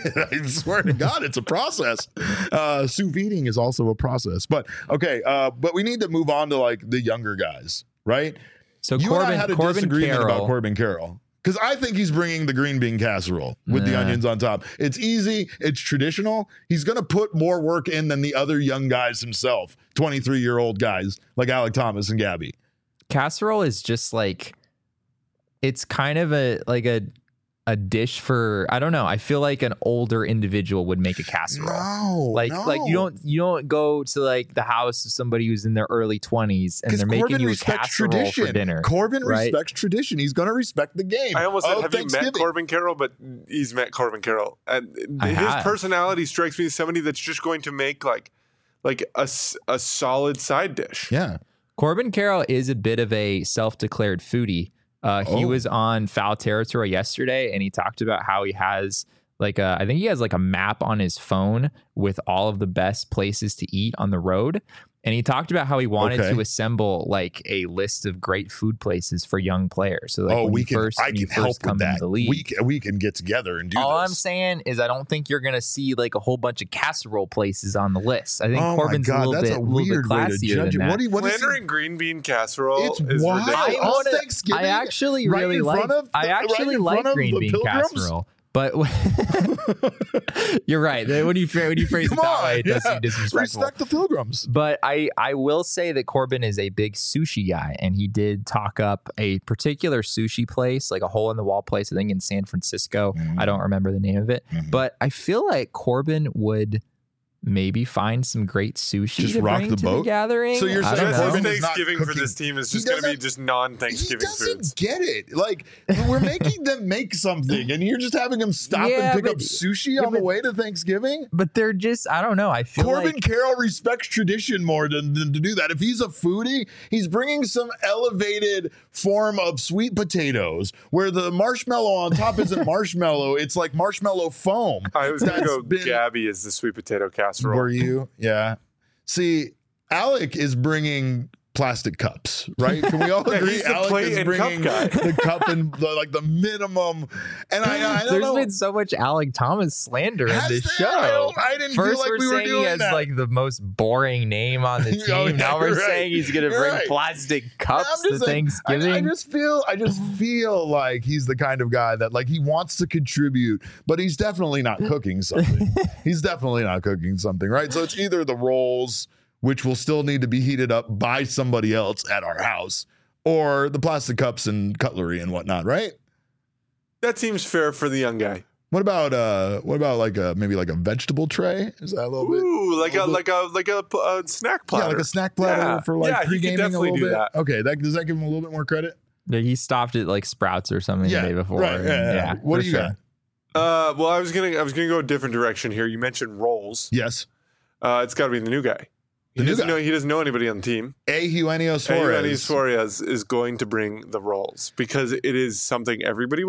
I swear to God, it's a process. Uh, sous videing is also a process. But okay, uh, but we need to move on to like the younger guys, right? So You Corbin, and I had a Corbin disagreement Carroll, about Corbin Carroll because I think he's bringing the green bean casserole with the Nah. onions on top. It's easy. It's traditional. He's going to put more work in than the other young guys himself, twenty-three year old guys like Alec Thomas and Gabby. casserole is just like it's kind of a like a a dish for I don't know. I feel like an older individual would make a casserole. No, Like no. like you don't you don't go to like the house of somebody who's in their early twenties and Because they're making Corbin you a respects casserole tradition. for dinner. Corbin right? respects tradition. He's going to respect the game. I almost said, of have you met Thanksgiving. Corbin Carroll? But he's met Corbin Carroll, and I his have. personality strikes me as somebody that's just going to make like, like a, s- a solid side dish. Yeah. Corbin Carroll is a bit of a self-declared foodie. Uh, he Oh. was on Foul Territory yesterday, and he talked about how he has like a, I think he has like a map on his phone with all of the best places to eat on the road. And he talked about how he wanted Okay. to assemble like a list of great food places for young players. So like oh, when we you can. first, I when can you help first come with into that. the league. We can, we can get together and do All I'm this. saying is I don't think you're going to see like a whole bunch of casserole places on the list. I think Oh my Corbin's God, a little that's bit, a little bit weird way to classier judge than it. that. What do you? What is Slandering green bean casserole It's is wild. ridiculous. On wanna- Thanksgiving, I actually right really in like. front of I the- right actually in like front of green the bean Pilgrims? casserole, but you're right. When you when you phrase it Come that on, way, it does yeah. seem disrespectful. Respect the Pilgrims. But I I will say that Corbin is a big sushi guy, and he did talk up a particular sushi place, like a hole in the wall place, I think in San Francisco. I don't remember the name of it, Mhm. but I feel like Corbin would maybe find some great sushi Just to rock bring the to boat? the gathering. So you're I saying don't That's know. Corbin his is not Thanksgiving for cooking. this team is He just going to be doesn't- just He non-Thanksgiving doesn't foods. get it. Like we're making them make something, and you're just having them stop Yeah, and pick but- up sushi yeah, on the but- way to Thanksgiving. But they're just I don't know. I feel Corbin like Carroll respects tradition more than, than to do that. If he's a foodie, he's bringing some elevated form of sweet potatoes where the marshmallow on top isn't marshmallow, it's like marshmallow foam. I was going to That's go been- Gabby as the sweet potato casserole. Were you? Yeah. See, Alec is bringing plastic cups, right? Can we all Yeah, agree? he's the Alec plate is and cup bringing guy. the cup and the, like the minimum. And I, I don't there's know. been so much Alec Thomas slander in Has this there? I, show. don't- I didn't First, feel like we're we were saying he doing has that. like the most boring name on the team. Oh, yeah, now we're you're right. saying he's going to You're bring right. plastic I'm cups just to saying, I- Thanksgiving. I, just feel, I just feel like he's the kind of guy that like he wants to contribute, but he's definitely not cooking something. He's definitely not cooking something, right? So it's either the rolls, which will still need to be heated up by somebody else at our house, or the plastic cups and cutlery and whatnot, right? That seems fair for the young guy. What about uh, what about like a maybe like a vegetable tray? Is that a little bit? Ooh, like a little like a like a, a snack platter. Yeah, like a snack platter Yeah. for like Yeah, he could pre-gaming a definitely little do bit. that. Okay, that does that give him a little bit more credit? Yeah, he stopped at like Sprouts or something Yeah, the day before. right. and Yeah, yeah. What for do you sure. got? Uh, well, I was gonna I was gonna go a different direction here. You mentioned rolls. Yes, Uh, it's got to be the new guy. He The new doesn't guy. know he doesn't know anybody on the team. Eugenio Suarez. Suarez. Suarez is going to bring the rolls because it is something everybody will eat.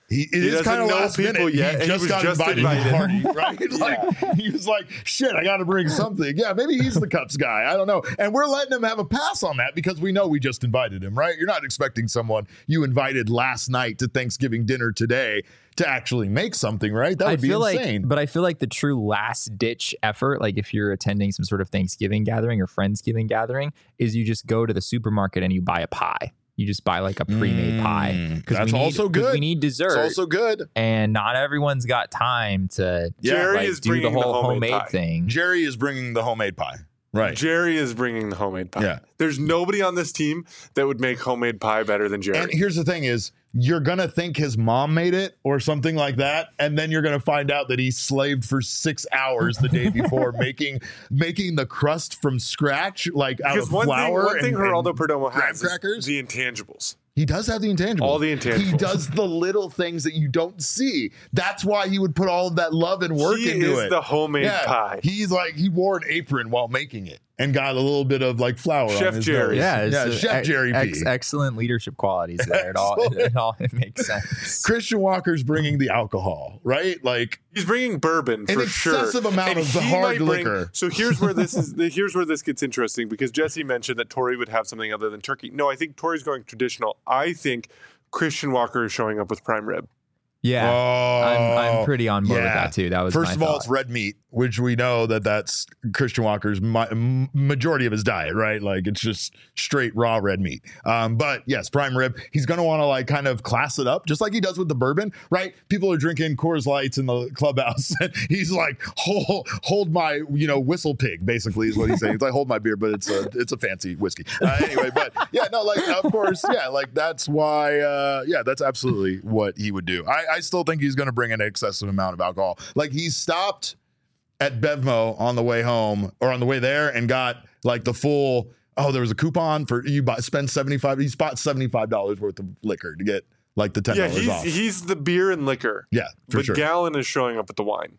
He, it He is kind of doesn't know last people minute. yet, and He he just was got just invited, to the invited. party, right? Like he was like, "Shit, I got to bring something." Yeah, maybe he's the Cups guy. I don't know. And we're letting him have a pass on that because we know we just invited him, right? You're not expecting someone you invited last night to Thanksgiving dinner today to actually make something, right? That would I be feel insane. like, but I feel like the true last ditch effort, like if you're attending some sort of Thanksgiving gathering or Friendsgiving gathering, is you just go to the supermarket and you buy a pie. You just buy like a pre-made Mm, pie. that's we need, also 'cause good. We need dessert. It's also good. And not everyone's got time to Yeah. Jerry like, is do the bringing the whole homemade homemade pie. thing. Jerry is bringing the homemade pie. Right. Jerry is bringing the homemade pie. Yeah. There's nobody on this team that would make homemade pie better than Jerry. And here's the thing is you're going to think his mom made it or something like that. And then you're going to find out that he slaved for six hours the day before making making the crust from scratch, like out because of one thing, flour. one thing and- Geraldo and Perdomo graham has is crackers. the intangibles. He does have the intangibles. All the He intangibles. does the little things that you don't see. That's why he would put all of that love and work He into is it. the homemade Yeah. pie. He's like, he wore an apron while making it and got a little bit of like flour Chef on his Jerry. nose. Yeah, it's yeah a- Chef ex- Jerry P. ex- excellent leadership qualities there. It all, it, it all it makes sense. Christian Walker's bringing the alcohol, right? Like, He's bringing bourbon An for sure. excessive amount And of the he hard might bring- liquor. So here's where this is. Here's where this gets interesting because Jesse mentioned that Tori would have something other than turkey. No, I think Tori's going traditional. I think Christian Walker is showing up with prime rib. Yeah, I'm, I'm oh, pretty on board with yeah. that too. That was First my of all, thought. it's red meat, which we know that that's Christian Walker's mi- m- majority of his diet, right? Like it's just straight raw red meat. Um, but yes, prime rib. He's going to want to like kind of class it up, just like he does with the bourbon, right? People are drinking Coors Lights in the clubhouse, and he's like, hold, hold my, you know, whistle pig. Basically, is what he's saying. He's like, hold my beer, but it's a it's a fancy whiskey. Uh, anyway, but yeah, no, like of course, yeah, like that's why, uh, yeah, that's absolutely what he would do. I, I still think he's going to bring an excessive amount of alcohol. Like he stopped at Bevmo on the way home or on the way there and got like the full, oh, there was a coupon for you buy, spend seventy-five, he bought seventy-five dollars worth of liquor to get like the ten Yeah, dollars he's off. he's the beer and liquor. Yeah, for But sure. Gallon is showing up with the wine.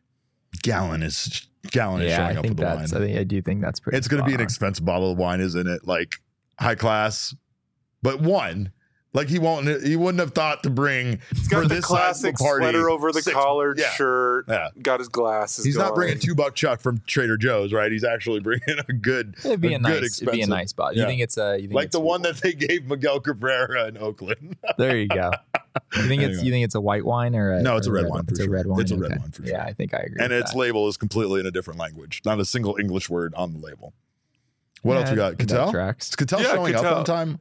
Gallon is Gallon is yeah, showing I up think with the that's. wine. I think I do think that's pretty. It's going to be an spot on. expensive bottle of wine, isn't it? Like high class, but one. Like he won't. He wouldn't have thought to bring He's got for the this classic sizable party, sweater over the six- collared yeah. shirt. Yeah. Got his glasses. He's not going. bringing two buck chuck from Trader Joe's, right? He's actually bringing a good, It'd be a, a nice. good It'd be a expensive- nice spot. You yeah. think it's a? You think like it's the one that they gave Miguel Cabrera in Oakland. There you go. You think it's? Anyway. You think it's a white wine or a? No, it's or a red wine for It's sure. a red wine. It's a red okay. wine for Yeah, sure. I think I agree. And with its that. label is completely in a different language, not a single English word on the label. What Yeah, else we got? that Cattell? tracks. Is Cattell Yeah, showing up Cattell. on time?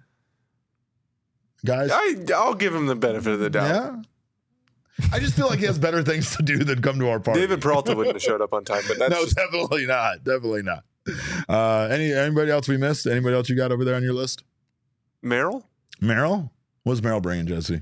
Guys? I, I'll give him the benefit of the doubt. Yeah. I just feel like he has better things to do than come to our party. David Peralta wouldn't have showed up on time, but that's no, just, definitely not. Definitely not. Uh, any anybody else we missed? Anybody else you got over there on your list? Merrill. Meryl? What's Meryl bringing, Jesse?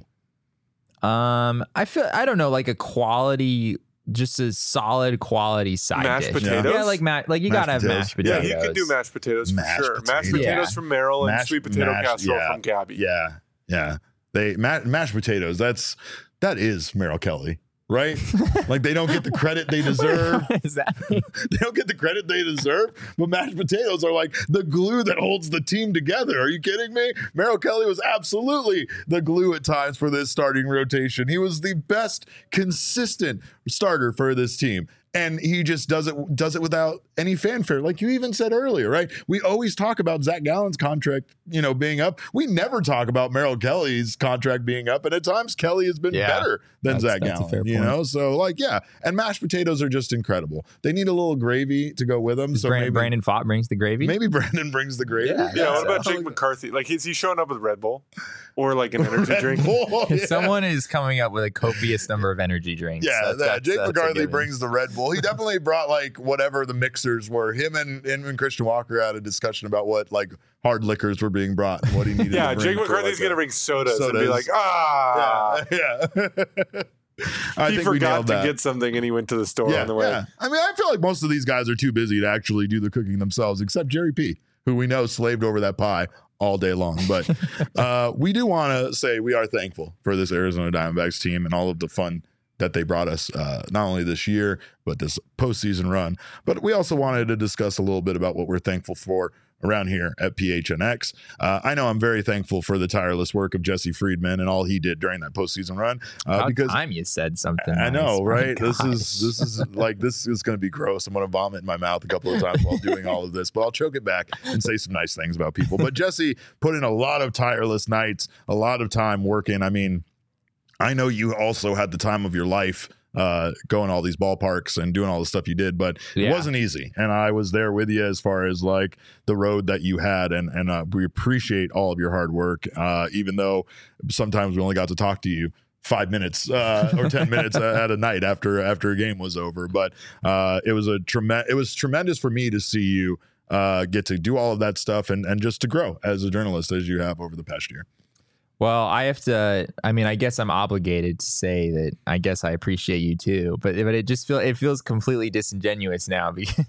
Um, I feel I don't know, like a quality, just a solid quality side Mashed dish. potatoes? Yeah, like ma- like you Mashed gotta have potatoes. mashed Yeah, potatoes. he could do mashed potatoes for Mashed sure. Mashed potatoes. potatoes Yeah. from Merrill and Mashed- sweet potato mashed- casserole yeah. from Gabby. Yeah, yeah. They ma- mashed potatoes. That's that is Meryl Kelly, right? Like they don't get the credit they deserve. What does that mean? They don't get the credit they deserve, but mashed potatoes are like the glue that holds the team together. Are you kidding me? Merrill Kelly was absolutely the glue at times for this starting rotation. He was the best consistent starter for this team. And he just does it does it without any fanfare, like you even said earlier, right? We always talk about Zach Gallen's contract, you know, being up. We never talk about Merrill Kelly's contract being up, and at times Kelly has been Yeah. better than That's- Zach that's a Gallen. fair You point. know, so like yeah, and mashed potatoes are just incredible. They need a little gravy to go with them. So Brandon, maybe Brandon Fott brings the gravy. maybe Brandon brings the gravy. Yeah. Yeah, what So- about Jake McCarthy? Like, is he showing up with Red Bull or like an energy Red drink? Bull, If yeah. someone is coming up with a copious number of energy drinks. Yeah, that's, that, that's, Jake that's a McCarthy given. brings the Red Bull. He definitely brought like whatever the mixers were. Him and, him and Christian Walker had a discussion about what like hard liquors were being brought and what he needed. Yeah, to bring Jake for, McCarthy's like, going to a- bring sodas, and be sodas. like, ah. Yeah, yeah. I he think we forgot nailed to that. get something and he went to the store yeah, on the way. yeah. I mean, I feel like most of these guys are too busy to actually do the cooking themselves, except Jerry P, who we know slaved over that pie all day long. But uh, we do want to say we are thankful for this Arizona Diamondbacks team and all of the fun that they brought us, uh, not only this year, but this postseason run. But we also wanted to discuss a little bit about what we're thankful for around here at P H N X. Uh, I know I'm very thankful for the tireless work of Jesse Friedman and all he did during that postseason run. Uh, About because time you said something. I nice. know, My right? This gosh. is this is like this is going to be gross. I'm going to vomit in my mouth a couple of times while doing all of this, but I'll choke it back and say some nice things about people. But Jesse put in a lot of tireless nights, a lot of time working. I mean, I know you also had the time of your life uh, going all these ballparks and doing all the stuff you did, but Yeah. it wasn't easy. And I was there with you as far as like the road that you had. And, and uh, we appreciate all of your hard work, uh, even though sometimes we only got to talk to you five minutes uh, or ten minutes at a night after after a game was over. But uh, it was a tremendous, it was tremendous for me to see you uh, get to do all of that stuff and, and just to grow as a journalist as you have over the past year. Well, I have to. I mean, I guess I'm obligated to say that. I guess I appreciate you too, but but it just feel it feels completely disingenuous now. Because,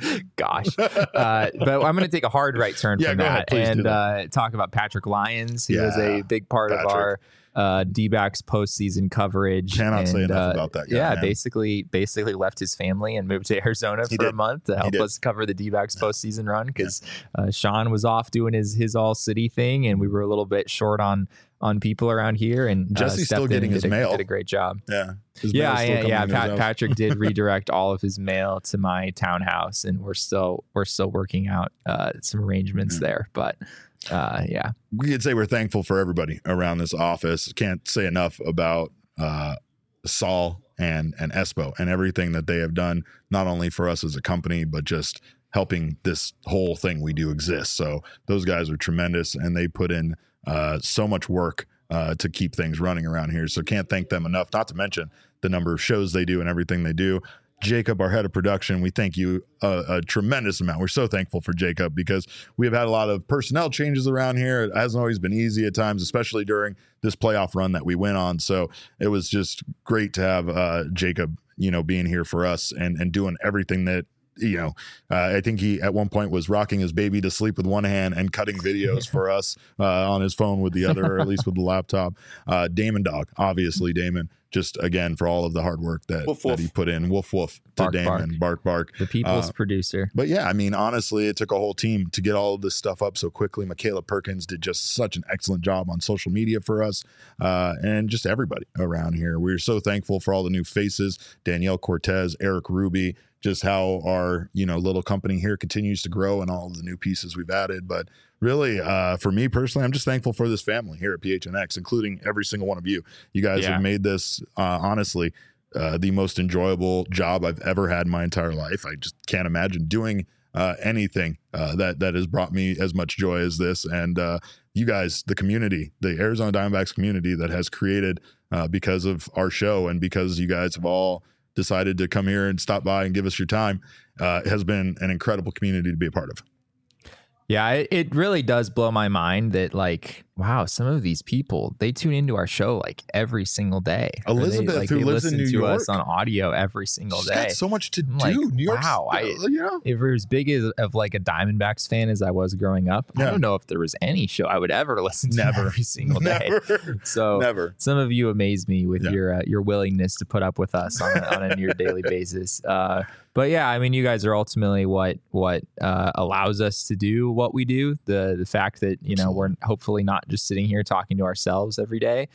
gosh, uh, but I'm going to take a hard right turn Yeah, from go that ahead. Please do and that. uh, talk about Patrick Lyons. He was Yeah, a big part Patrick. of our uh, D-backs postseason coverage. Cannot and, say enough uh, about that guy, Yeah, man. basically, basically left his family and moved to Arizona He for a did. month to help did. us cover the D-backs postseason run because uh, Sean was off doing his his all city thing, and we were a little bit short on. on people around here, and uh, Jesse's still stepped in getting and his did a, mail. did a great job. Yeah. His Yeah, mail's still yeah, coming yeah. in his Pat, house. Patrick did redirect all of his mail to my townhouse, and we're still we're still working out uh, some arrangements Yeah. there. But uh, yeah, We could say we're thankful for everybody around this office. Can't say enough about uh, Saul and and Espo and everything that they have done, not only for us as a company, but just helping this whole thing we do exist. So those guys are tremendous, and they put in uh, so much work uh, to keep things running around here. So can't thank them enough, not to mention the number of shows they do and everything they do. Jacob, our head of production, we thank you a, a tremendous amount. We're so thankful for Jacob because we have had a lot of personnel changes around here. It hasn't always been easy at times, especially during this playoff run that we went on. So it was just great to have uh, Jacob, you know, being here for us and, and doing everything that, you know, uh, I think he at one point was rocking his baby to sleep with one hand and cutting videos for us uh, on his phone with the other, or at least with the laptop. Uh, Damon Dog, obviously Damon, just again for all of the hard work that, Woof, that woof. he put in. Woof woof to Bark, Damon, bark bark. the people's Uh, producer. But yeah, I mean, honestly, it took a whole team to get all of this stuff up so quickly. Michaela Perkins did just such an excellent job on social media for us, uh, and just everybody around here. We're so thankful for all the new faces: Danielle Cortez, Eric Ruby. Just how our, you know, little company here continues to grow and all of the new pieces we've added. But really, uh, for me personally, I'm just thankful for this family here at P H N X, including every single one of you. You guys Yeah. have made this, uh, honestly, uh, the most enjoyable job I've ever had in my entire life. I just can't imagine doing uh, anything uh, that that has brought me as much joy as this. And uh, you guys, the community, the Arizona Diamondbacks community that has created uh, because of our show and because you guys have all decided to come here and stop by and give us your time, uh, it has been an incredible community to be a part of. Yeah, it, it really does blow my mind that, like, wow, some of these people, they tune into our show like every single day. Or they, Elizabeth, like, who they lives in listen New to us York. on audio every single She's day. got so much to I'm do. like, New York, wow, I- you know, If we're as big as of like a Diamondbacks fan as I was growing up, Yeah. I don't know if there was any show I would ever listen to Never. every single day. never, So never. some of you amaze me with Yeah. your uh, your willingness to put up with us on a, on a near daily basis. Uh, but yeah, I mean, you guys are ultimately what what uh, allows us to do what we do. The the fact that, you know, we're hopefully not just sitting here talking to ourselves every day.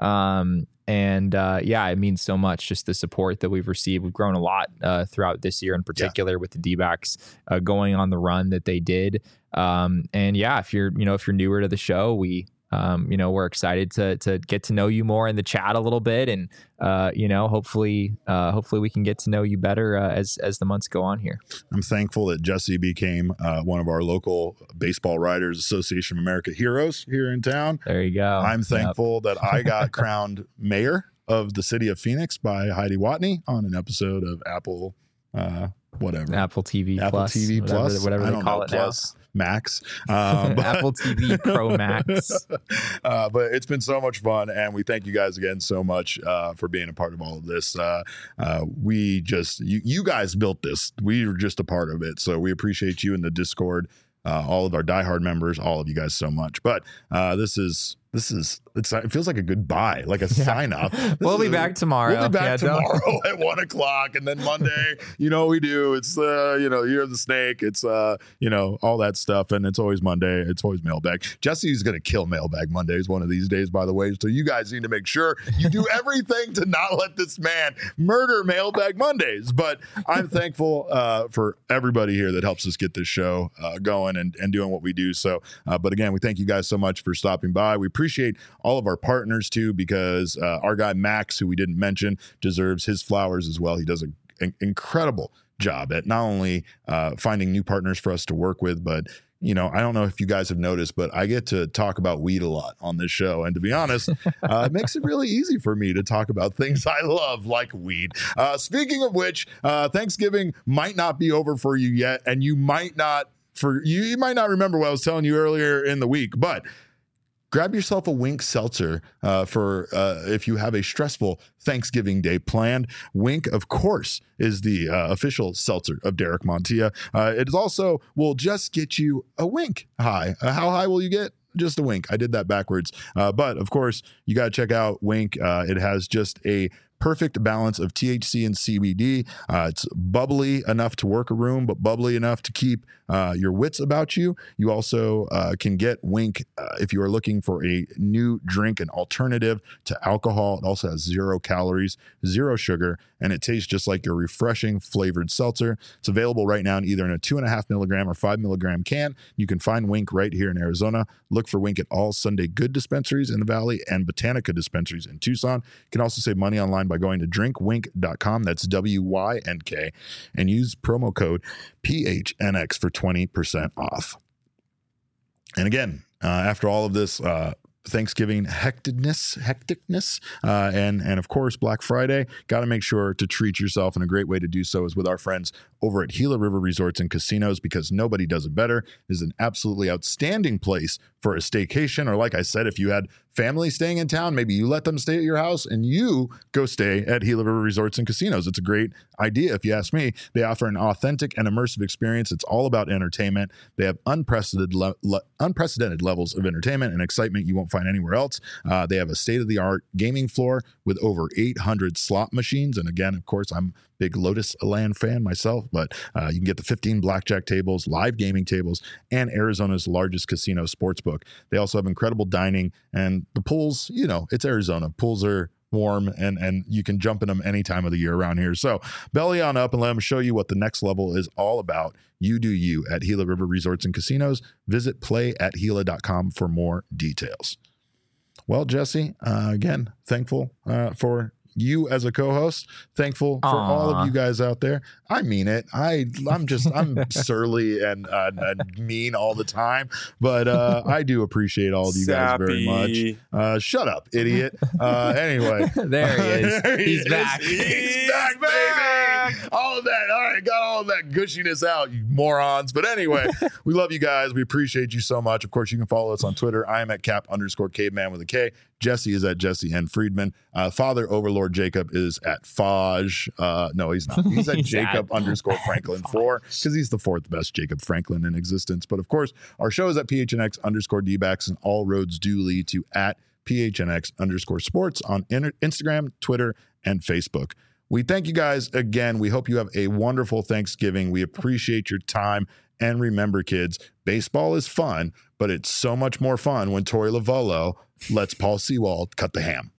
Um, and uh, yeah, it means so much, just the support that we've received. We've grown a lot uh, throughout this year in particular with the D-backs uh, going on the run that they did. Um, and yeah, if you're, you know, if you're newer to the show, we, um, you know, we're excited to to get to know you more in the chat a little bit, and uh, you know, hopefully, uh, hopefully we can get to know you better uh, as as the months go on here. I'm thankful that Jesse became uh, one of our local Baseball Writers Association of America heroes here in town. There you go. I'm Yep. thankful that I got crowned mayor of the city of Phoenix by Heidi Watney on an episode of Apple, uh, whatever. Apple T V Apple Plus, T V whatever, Plus, whatever I they don't call know, it Plus Max, um, now. but- Apple T V Pro Max. uh, but it's been so much fun, and we thank you guys again so much uh, for being a part of all of this. Uh, uh, we just you, you guys built this. We were just a part of it, so we appreciate you in the Discord, uh, all of our diehard members, all of you guys so much. But uh, this is This is, it's, it feels like a goodbye, like a yeah. sign off. This we'll be a, back tomorrow. We'll be back yeah, tomorrow at one o'clock. And then Monday, you know, we do, it's, uh, you know, Year of the Snake. It's, uh, you know, all that stuff. And it's always Monday. It's always mailbag. Jesse's going to kill mailbag Mondays one of these days, by the way. So you guys need to make sure you do everything to not let this man murder mailbag Mondays. But I'm thankful uh, for everybody here that helps us get this show uh, going and, and doing what we do. So, uh, but again, we thank you guys so much for stopping by. We appreciate all of our partners too, because uh, our guy Max, who we didn't mention, deserves his flowers as well. He does a, an incredible job at not only uh, finding new partners for us to work with, but you know, I don't know if you guys have noticed, but I get to talk about weed a lot on this show. And to be honest, uh, it makes it really easy for me to talk about things I love, like weed. Uh, speaking of which, uh, Thanksgiving might not be over for you yet, and you might not for you, you might not remember what I was telling you earlier in the week, but grab yourself a Wink seltzer uh, for uh, if you have a stressful Thanksgiving day planned. Wink, of course, is the uh, official seltzer of Derek Montilla. Uh, it is also will just get you a wink high. Uh, how high will you get? Just a wink. I did that backwards. Uh, but of course, you got to check out Wink. Uh, it has just a perfect balance of T H C and C B D. Uh, it's bubbly enough to work a room, but bubbly enough to keep uh, your wits about you. You also uh, can get Wink uh, if you are looking for a new drink, an alternative to alcohol. It also has zero calories, zero sugar, and it tastes just like your refreshing flavored seltzer. It's available right now in either in a two and a half milligram or five milligram can. You can find Wink right here in Arizona. Look for Wink at all Sunday Good dispensaries in the Valley and Botanica dispensaries in Tucson. You can also save money online by going to drink wink dot com. That's W Y N K, and use promo code P H N X for twenty percent off. And again, uh, after all of this uh, Thanksgiving hecticness, hecticness, uh, and and of course Black Friday, got to make sure to treat yourself, and a great way to do so is with our friends over at Gila River Resorts and Casinos, because nobody does it better. It is an absolutely outstanding place for a staycation, or like I said, if you had family staying in town, maybe you let them stay at your house and you go stay at Gila River Resorts and Casinos. It's a great idea, if you ask me. They offer an authentic and immersive experience. It's all about entertainment. They have unprecedented le- le- unprecedented levels of entertainment and excitement you won't find anywhere else. Uh, they have a state-of-the-art gaming floor with over eight hundred slot machines. And again, of course, I'm a big Lotus Land fan myself, but uh, you can get the fifteen blackjack tables, live gaming tables, and Arizona's largest casino sportsbook. They also have incredible dining, and the pools, you know, it's Arizona. Pools are warm, and and you can jump in them any time of the year around here. So belly on up and let them show you what the next level is all about. You do you at Gila River Resorts and Casinos. Visit play at gila dot com for more details. Well, Jesse, uh, again, thankful uh, for you as a co-host. Thankful for Aww. all of you guys out there. I mean it. I, I'm just, I'm surly and, uh, and mean all the time, but uh, I do appreciate all of you guys very much. Uh, shut up, idiot. Uh, anyway. There he is. There he He's is. back. He's, He's back, back. baby. All of that. All right. Got all of that gushiness out, you morons. But anyway, we love you guys. We appreciate you so much. Of course, you can follow us on Twitter. I am at cap underscore caveman with a K. Jesse is at Jesse N. Friedman. Uh, Father Overlord Jacob is at Faj. Uh, no, he's not. He's at He's Jacob at underscore Franklin four, because he's the fourth best Jacob Franklin in existence. But of course, our show is at P H N X underscore D-backs, and all roads do lead to at P H N X underscore sports on in- Instagram, Twitter, and Facebook. We thank you guys again. We hope you have a wonderful Thanksgiving. We appreciate your time. And remember, kids, baseball is fun, but it's so much more fun when Torey Lovullo lets Paul Sewald cut the ham.